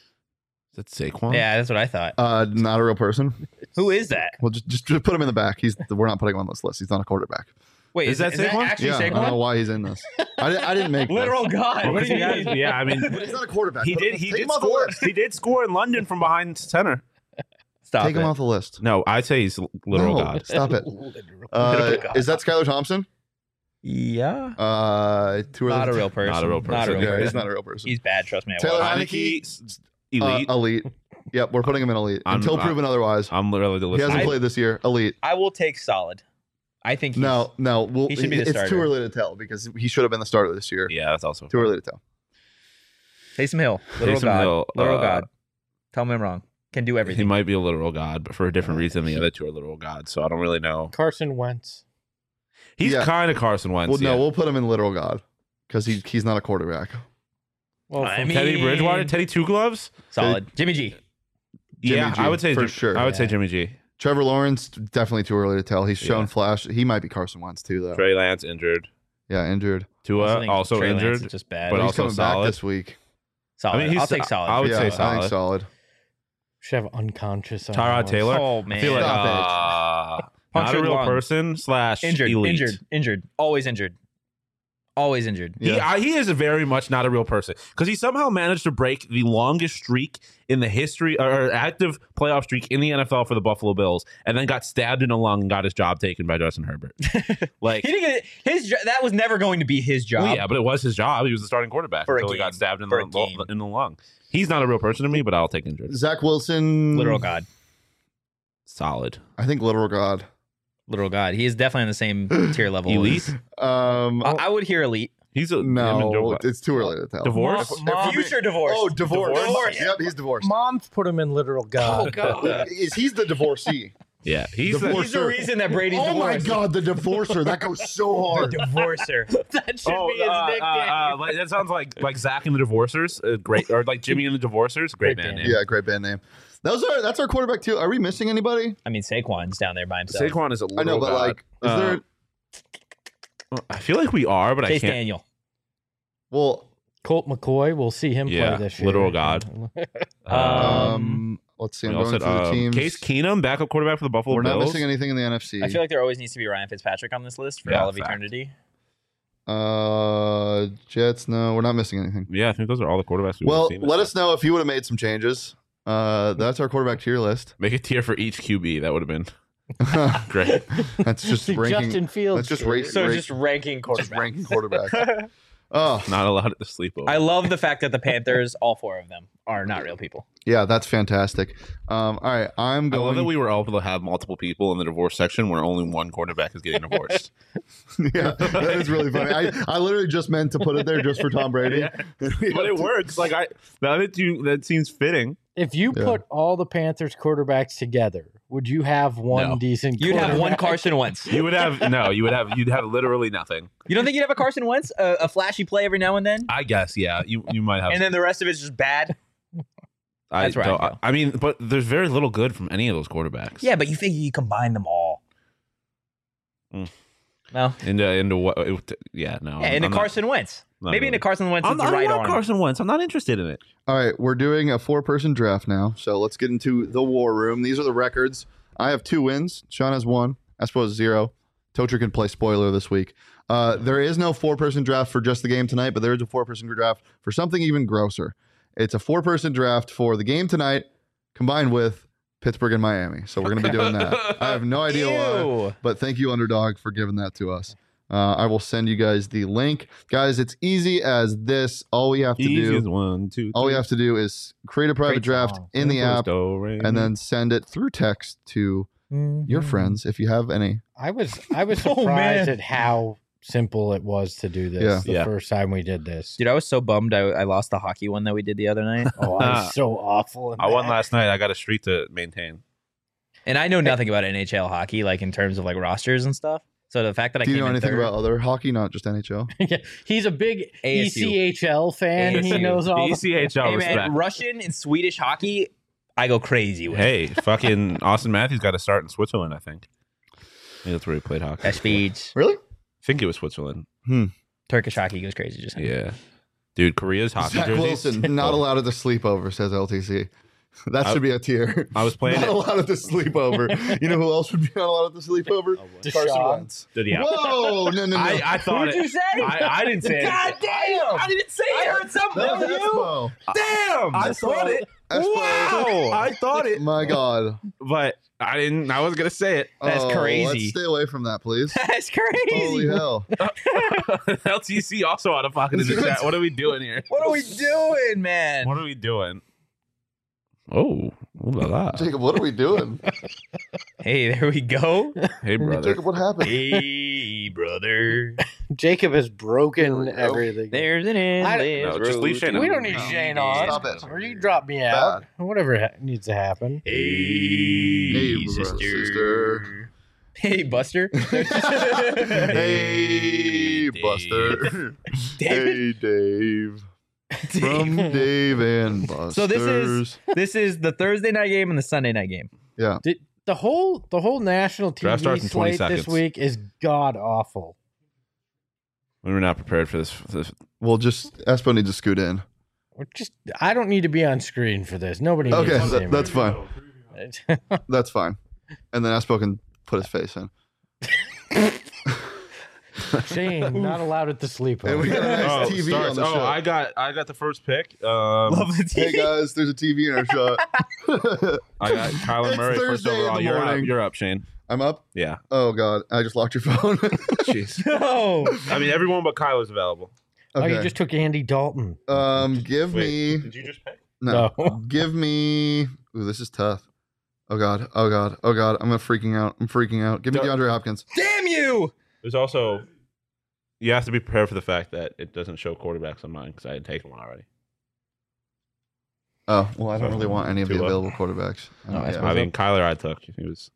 Is that Saquon? Yeah, that's what I thought. Not a real person. Who is that? Well, just put him in the back. We're not putting him on this list. He's not a quarterback. Wait, Is that that Saquon? actually Yeah, I don't know Saquon? why he's in this. I didn't make Literal this. god. What do you mean? Yeah, I mean, But he's not a quarterback. he did Take him off the score. list. He did score in London from behind center. Stop Take him it. off the list. No, I'd say he's literal No, god. Stop it. Is that Skylar Thompson? Yeah. Too early Not to a real person. Not a real person. Yeah, person. he's not a real person. He's bad. Trust me. I Taylor watched. Heineke? Elite. Elite. Yep, we're putting him in elite until proven otherwise. I'm literally the He list. hasn't played this year. Elite. I will take solid. I think he's, No. he should be the it's starter. too early to tell because he should have been the starter this year. Yeah, that's also. Too early to tell. Taysom Hill. Literal Taysom god. Hill, Literal god. Tell me I'm wrong. Can do He everything. might be a literal god, but for a different reason. The other two are literal gods, so I don't really know. Carson Wentz. He's Yeah. kind of Carson Wentz. Well, no, yeah. we'll put him in literal god because he's not a quarterback. Well, I from- mean- Teddy Bridgewater, Teddy Two Gloves. Solid. Jimmy G. Yeah, G, I would say for sure. I would say Yeah. Jimmy G. Trevor Lawrence, definitely too early to tell. He's shown Yeah. flash. He might be Carson Wentz too, though. Trey Lance injured. Yeah, injured. Tua also Trey Lance injured. is just bad. but But he's also coming solid. back this week. solid. I mean, he's- I'll take solid. I would yeah, say I think solid. should have unconscious. on Tyrod that Taylor. Oh man. I feel like Stop not a Punctured real lung. person / injured. elite. Injured. Always injured. Always injured. Yeah. He is very much not a real person because he somehow managed to break the longest streak in the history or active playoff streak in the NFL for the Buffalo Bills, and then got stabbed in the lung and got his job taken by Justin Herbert. Like, He didn't get that was never going to be his job. well, yeah, but it was his job. He was the starting quarterback For a until he game. got stabbed in For a game. the lung. He's not a real person to me, but I'll take injured. Zach Wilson. Literal god. Solid. I think literal god. Literal god. He is definitely on the same tier level. Elite. I would hear elite. He's a no, it's too early to tell. divorce. Mom- Future divorce. Oh, divorce. Divorce. Yep, he's divorced. Mom's put him in literal god. He's the divorcee. Yeah, he's Divorce. He's the reason that Brady's Oh my divorced. god, the divorcer. That goes so hard. Divorcer. That should Oh, be his nickname. like, that sounds like Zach and the Divorcers, great, or like Jimmy and the Divorcers, great Great band band. name. Yeah, great band name. That's our quarterback too. Are we missing anybody? I mean, Saquon's down there by himself. Saquon is a little. I know, but like, is there? I feel like we are, but I Chase can't. Daniel. Well, Colt McCoy. We'll see him Yeah, play this year. literal god. let's see. we I'm also going said, through the teams. Case Keenum, backup quarterback for the Buffalo We're not Bills. missing anything in the NFC. I feel like there always needs to be Ryan Fitzpatrick on this list for Yeah, all of fact. eternity. Jets. No, we're not missing anything. Yeah, I think those are all the quarterbacks. Well, let us know if you would have made some changes. That's our quarterback tier list. Make a tier for each QB. That would have been great. That's just The ranking. Justin Fields That's just tier. Just ranking just quarterbacks. ranking quarterbacks. Oh, Not allowed at the sleepover. I love the fact that the Panthers, all 4 of them, are not real people. yeah, that's fantastic. All right, I'm I love that going. we were able to have multiple people in the divorce section where only one quarterback is getting divorced. Yeah, that is really funny. I literally just meant to put it there just for Tom Brady. But it works. Like that seems fitting. If you Yeah. put all the Panthers quarterbacks together, would you have one No. decent? You'd have one quarterback? Carson Wentz. You'd have literally nothing. You don't think you'd have a Carson Wentz? A flashy play every now and then? I guess, yeah. You might have. And then the rest of it's just bad? That's where I'd go. I mean, but there's very little good from any of those quarterbacks. Yeah, but you think you combine them all. Mm. No? Into what? Yeah, no. Yeah, into I'm Carson Wentz. not Maybe really. into Carson Wentz I with the don't right want arm. Carson Wentz. I'm not interested in it. All right, we're doing a 4-person draft now, so let's get into the war room. These are the records. I have 2 wins. Sean has 1. Espo has 0. Tocher can play spoiler this week. There is no 4-person draft for just the game tonight, but there is a 4-person draft for something even grosser. It's a 4-person draft for the game tonight combined with Pittsburgh and Miami. So we're going to be doing that. I have no idea why, Ew. but thank you, Underdog, for giving that to us. I will send you guys the link. Guys, it's easy as this. All we have to Easy as do 1, 2, all we have to do is create a private Great draft song. in the app and and then send it through text to your friends if you have any. I was Oh, surprised man. at how simple it was to do this. Yeah. The Yeah. first time we did this. Dude, I was so bummed I lost the hockey one that we did the other night. Oh, I was so awful. In I won that. last night. I got a streak to maintain. And I know nothing about NHL hockey, like in terms of like rosters and stuff. So the fact that I Do you came know in anything third, about other hockey, not just NHL? Yeah, he's a big ASU. ECHL fan. He ASU. knows all. The, ECHL hey respect. man, Russian and Swedish hockey, I go crazy with. Hey, fucking Austin Matthews got to start in Switzerland, I think. I think that's where he played hockey. That speeds. Really? I think it was Switzerland. Turkish hockey goes crazy. Just Yeah. Dude, Korea's hockey Zach jerseys. Wilson, not allowed at the sleepover, says LTC. That should be a tier. I was playing Not it. allowed at the sleepover. You know who else would be not allowed at the sleepover? Deshaun. Carson Wentz. Yeah. Whoa! No. I thought Who'd you say? I didn't say God it. damn! I didn't say it. I heard something. That was That was you. Espo. Damn! I thought it. Espo. Wow. I thought it. My God. But I didn't. I was going to say it. That's Oh, crazy. Let's stay away from that, please. That's crazy. Holy hell. LTC also out of pocket in the chat. What are we doing here? What are we doing, man? What are we doing? Oh, ooh la la. Jacob, what are we doing? Hey, there we go. Hey, brother. Jacob, what happened? Hey, brother. Jacob has There broken we go. everything. There's an endless No, just leave road Shane to on. We don't need No. Shane on. Stop it. Or you drop me out. Whatever needs to happen. Hey, Hey, sister. Hey, Buster. Hey, Buster. Hey, Dave. From Dave and Buster's. So this is the Thursday night game and the Sunday night game. The whole national Draft starts TV in 20 slate this seconds. week is god awful. We were not prepared for this. Well, just Espo needs to scoot in. I don't need to be on screen for this. Nobody needs Okay, to see me. that's fine. That's fine. And then Espo can put his face in. Shane, not allowed at the sleepover. And we got a nice TV on the show. I got the first pick. Love the Hey TV. guys, there's a TV in our shot. I got Kyler It's Murray first Thursday in overall. the You're up. morning. You're up, Shane. I'm up. Yeah. Oh God, I just locked your phone. Jeez. No. I mean, everyone but Kyler's available. Oh, you Okay. just took Andy Dalton. Give me Did you just pick? no. No. Give me. Ooh, this is tough. Oh God. Oh God. Oh God. I'm freaking out. I'm freaking out. Give me Don't- DeAndre Hopkins. Damn you. There's also you have to be prepared for the fact that it doesn't show quarterbacks on mine because I had taken one already. Oh well, I don't really want any of the Tua. available quarterbacks. No, I Yeah. suppose- I mean, Kyler I took. He was.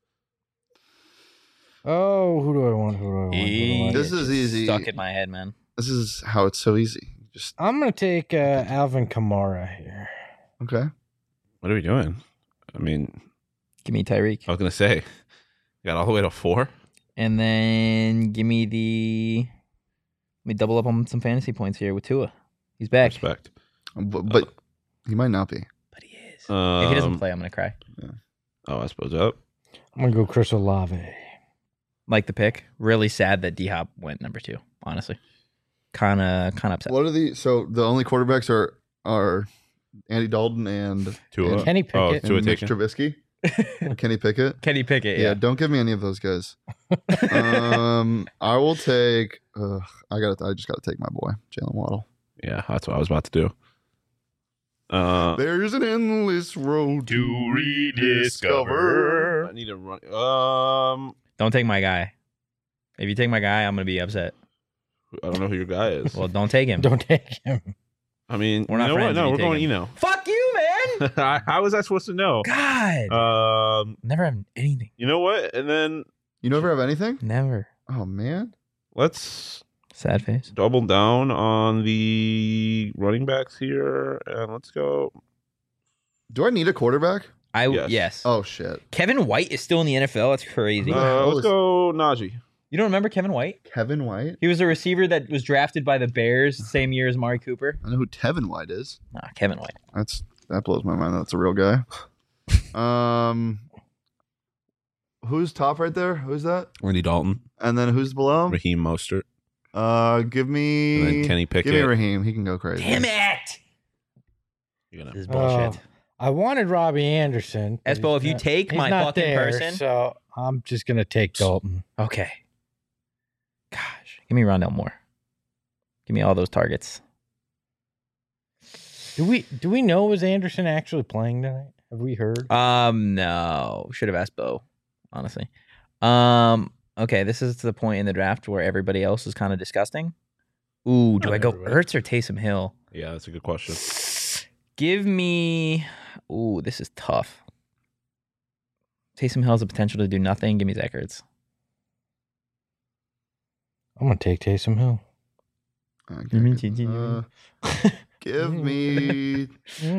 Oh, who do I want? Who do I want? Who do I want? This is easy. Stuck in my head, man. This is how it's so easy. Just I'm gonna take Alvin Kamara here. okay. What are we doing? I mean, Give me Tyreek. I was gonna say, got all the way to 4. And then give me let me double up on some fantasy points here with Tua. He's back. Respect. But he might not be. But he is. If he doesn't Um, play, I'm going to cry. Oh, I suppose up. I'm gonna go Chris Olave. Like the pick. Really sad that D-Hop went number 2, honestly. Kind of upset. What are the so the only quarterbacks are Andy Dalton and Tua. Kenny Pickett. Tua and Mitch taken. Trubisky. Kenny Pickett. Kenny Pickett. Yeah, Yeah. don't give me any of those guys. I will take. I just gotta take my boy Jalen Waddle. Yeah, that's what I was about to do. There's an endless road to rediscover. I need to run. Don't take my guy. If you take my guy, I'm gonna be upset. I don't know who your guy is. Well, don't take him. Don't take him. I mean, We're not you know friends what? if No, you we're take going him. Eno. Fuck you, man. How was I supposed to know? God. Never have anything. You know what? And then You never have anything? Never. Oh man. let's Sad face. double down on the running backs here, and let's go. Do I need a quarterback? Yes. Oh shit. Kevin White is still in the NFL. That's crazy. the hell Let's is- go Najee. You don't remember Kevin White? Kevin White. He was a receiver that was drafted by the Bears the same year as Amari Cooper. I know who Tevin White is. Nah, Kevin White. That blows my mind. That's a real guy. Who's top right there? Who's that? Andy Dalton, And then who's below him? Raheem Mostert, Give me. and then Kenny Give me Pickett. Raheem. He can go crazy. Damn it! You're This gonna- is bullshit. I wanted Robbie Anderson. but Espo, he's if you not- take he's my not fucking there, person- so I'm just gonna take Dalton. Okay. Gosh, give me Rondell Moore. Give me all those targets. Do we know was Anderson actually playing tonight? Have we heard? No. Should have asked Bo, honestly. Okay, this is the point in the draft where everybody else is kind of disgusting. Ooh, do Not I go everybody. Ertz or Taysom Hill? Yeah, that's a good question. Give me. Ooh, this is tough. Taysom Hill has the potential to do nothing. Give me Zach Ertz. I'm gonna take Taysom Hill. Okay, me good. too. Give me.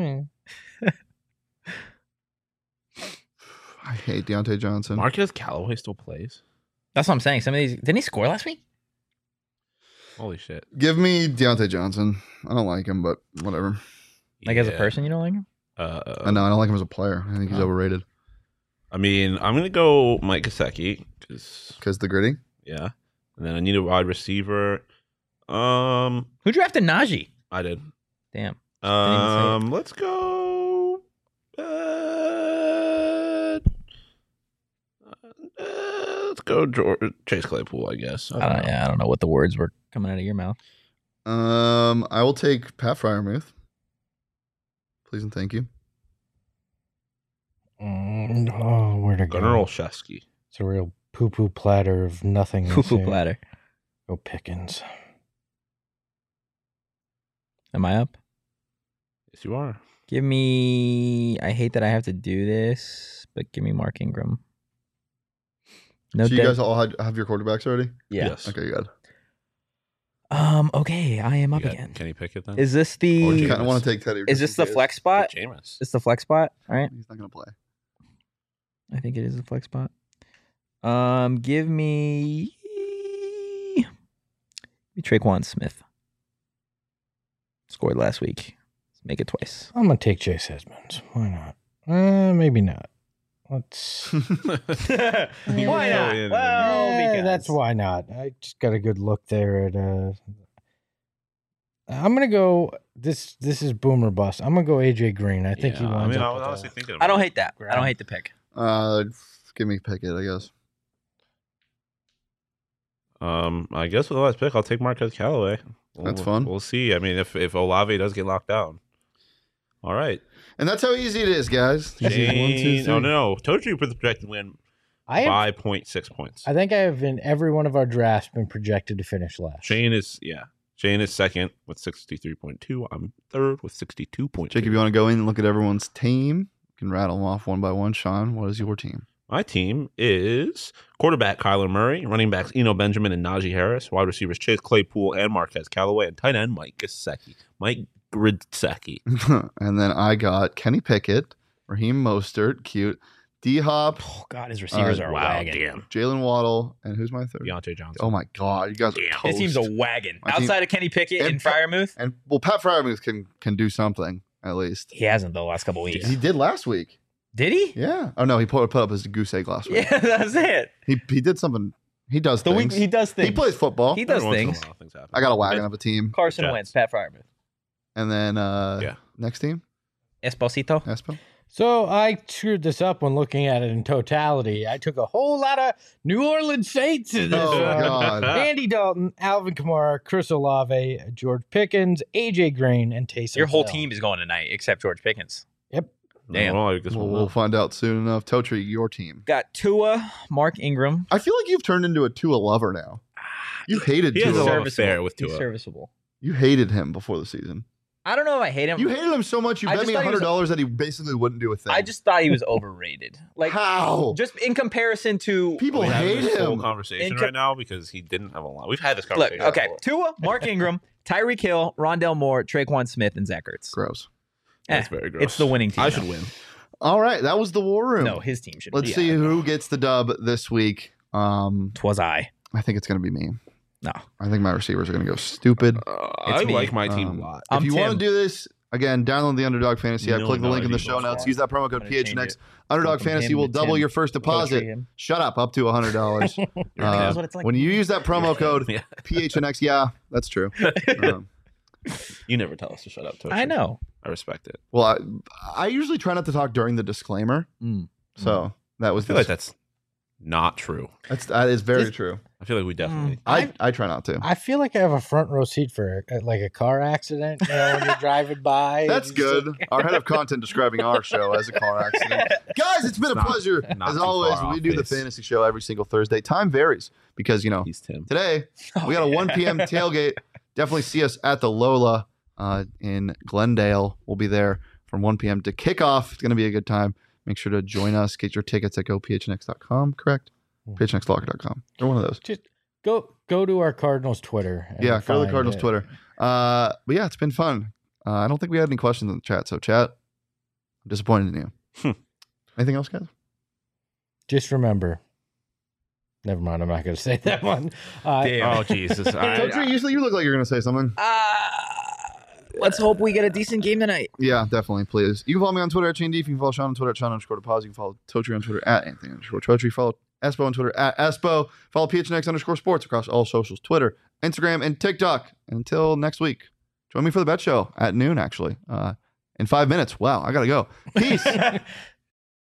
I hate Deontay Johnson. Marquez Callaway still plays. That's what I'm saying. Some of these didn't he score last week? Holy shit! Give me Deontay Johnson. I don't like him, but whatever. Like as a Yeah. person, you don't like him? I know I don't like him as a player. I think he's Oh. overrated. I mean, I'm gonna go Mike Gesicki because The gritty. yeah, and then I need a wide receiver. Who drafted Najee? I did. Damn. Didn't even Let's go. Let's go Chase Claypool, I guess. I don't know what the words were coming out of your mouth. I will take Pat Fryermuth. Please and thank you. Oh, where to go? Gunnar Olszewski. It's a real poo-poo platter of nothing. Poo-poo platter. Go Pickens. Am I up? Yes, you are. Give me. I hate that I have to do this, but give me Mark Ingram. No, So you guys all have your quarterbacks already? yeah. Yes. Okay, good. Okay, I am You up got again. Kenny Pickett then? Is this Or the? I Jameis. kind of want to take Teddy. Is this the flex spot? Jameis. It's the flex spot. All right. He's not going to play. I think it is the flex spot. Give me Traquan Smith. Scored last week. Let's make it twice. I'm gonna take Chase Edmonds. Why not? Maybe not. Let's. Why You not? go in Well, Eh, because that's why not. I just got a good look there at. I'm gonna go. This is boomer bust. I'm gonna go AJ Green. I think he Yeah, winds I up. was with honestly that. thinking I don't about hate that. I don't hate the pick. Give me Pickett, I guess. I guess with the last pick, I'll take Marquez Callaway. That's fun. We'll see. I mean, if Olave does get locked down. All right. And that's how easy it is, guys. Shane, no. Told you projected win I have, 5.6 points. I think I have in every one of our drafts been projected to finish last. Shane is second with 63.2. I'm third with 62.2. Jake, if you want to go in and look at everyone's team, you can rattle them off one by one. Sean, what is your team? My team is quarterback Kyler Murray, running backs Eno Benjamin and Najee Harris, wide receivers Chase Claypool and Marquez Callaway, and tight end Mike Gesicki. Mike Gesicki. And then I got Kenny Pickett, Raheem Mostert, cute, D-Hop, Oh God, his receivers are a Wow, wagon. damn. Jalen Waddle, and who's my third? Deontay Johnson. Oh my God, you guys are Damn. toast. His team's a wagon. My team- Outside of Kenny Pickett and and Fryermuth, And well, Pat Fryermuth can do something at least. he hasn't the last couple weeks. He did last week. Did he? Yeah. Oh no, he put up his goose egg last week. Yeah, that's it. He did something. He does The things. week he does things. He plays football. He does Every once in a things. while, things happen. I got a wagon of a team. Carson Jets. Wentz, Pat Fryermuth. And then Yeah. next team. Esposito. Espo? So I screwed this up when looking at it in totality. I took a whole lot of New Orleans Saints in this Oh, one. God. Andy Dalton, Alvin Kamara, Chris Olave, George Pickens, AJ Green, and Taysom Your whole Hill. team is going tonight except George Pickens. Yep. Damn. Well, I guess We'll find out soon enough. Totri, your team. Got Tua, Mark Ingram. I feel like you've turned into a Tua lover now. You hated He has a Tua. lot of affair with He's Tua. serviceable. You hated him before the season. I don't know if I hate him. You hated him so much you I bet just me thought he was- $100 that he basically wouldn't do a thing. I just thought he was overrated. Like How? just in comparison to People Are we having hate this whole him. conversation Inca- right now because he didn't have a lot. We've had this look. conversation. Okay, Tua, Mark Ingram, Tyreek Hill, Rondell Moore, Traquan Smith, and Zach Ertz. Gross. That's Eh, very gross. It's the winning team. I though. should win. All right, that was the war room. No, his team should. Let's see who gets the dub this week. Twas I. I think it's going to be me. No, I think my receivers are going to go stupid. I me. like my team a Um, lot. If I'm you want to Tim. do this, again, download the Underdog Fantasy app. No, Click the no, link in the I show think notes. so. Use that promo I'm code gonna change PHNX. it. Underdog From Fantasy him will to double Tim. your first deposit. him. Shut up to $100. That's what it's like. When you use that promo code Yeah. PHNX, yeah, that's true. You never tell us to shut up. Toshi. I know. I respect it. Well, I usually try not to talk during the disclaimer. So that was I feel like that's not true. that is very This- true. I feel like we definitely. I try not to. I feel like I have a front row seat for like a car accident. You know, when you're driving by. That's and just good. like- Our head of content describing our show as a car accident. Guys, it's been a Not- pleasure. not As too always, far we off do the base. fantasy show every single Thursday. Time varies because, He's Tim. today we got a 1 p.m. tailgate. Definitely see us at the Lola in Glendale. We'll be there from 1 p.m. to kick off. It's going to be a good time. Make sure to join us. Get your tickets at gophnx.com, correct? phnxlocker.com. Or one of those. Just go to our Cardinals Twitter. and Yeah, go to the find Cardinals it. Twitter. But yeah, it's been fun. I don't think we had any questions in the chat. So, chat, I'm disappointed in you. Anything else, guys? Just remember. Never mind. I'm not going to say that one. Oh Jesus! Totri, you look like you're going to say something. Let's hope we get a decent game tonight. Yeah, definitely, please. You can follow me on Twitter at Shane D. You can follow Sean on Twitter at Sean_Deposit. You can follow Totri on Twitter at Anthony_Totri. Follow Espo on Twitter at Espo. Follow PHNX_sports across all socials, Twitter, Instagram, and TikTok. And until next week, join me for the bet show at noon, actually. In 5 minutes. Wow, I got to go. Peace.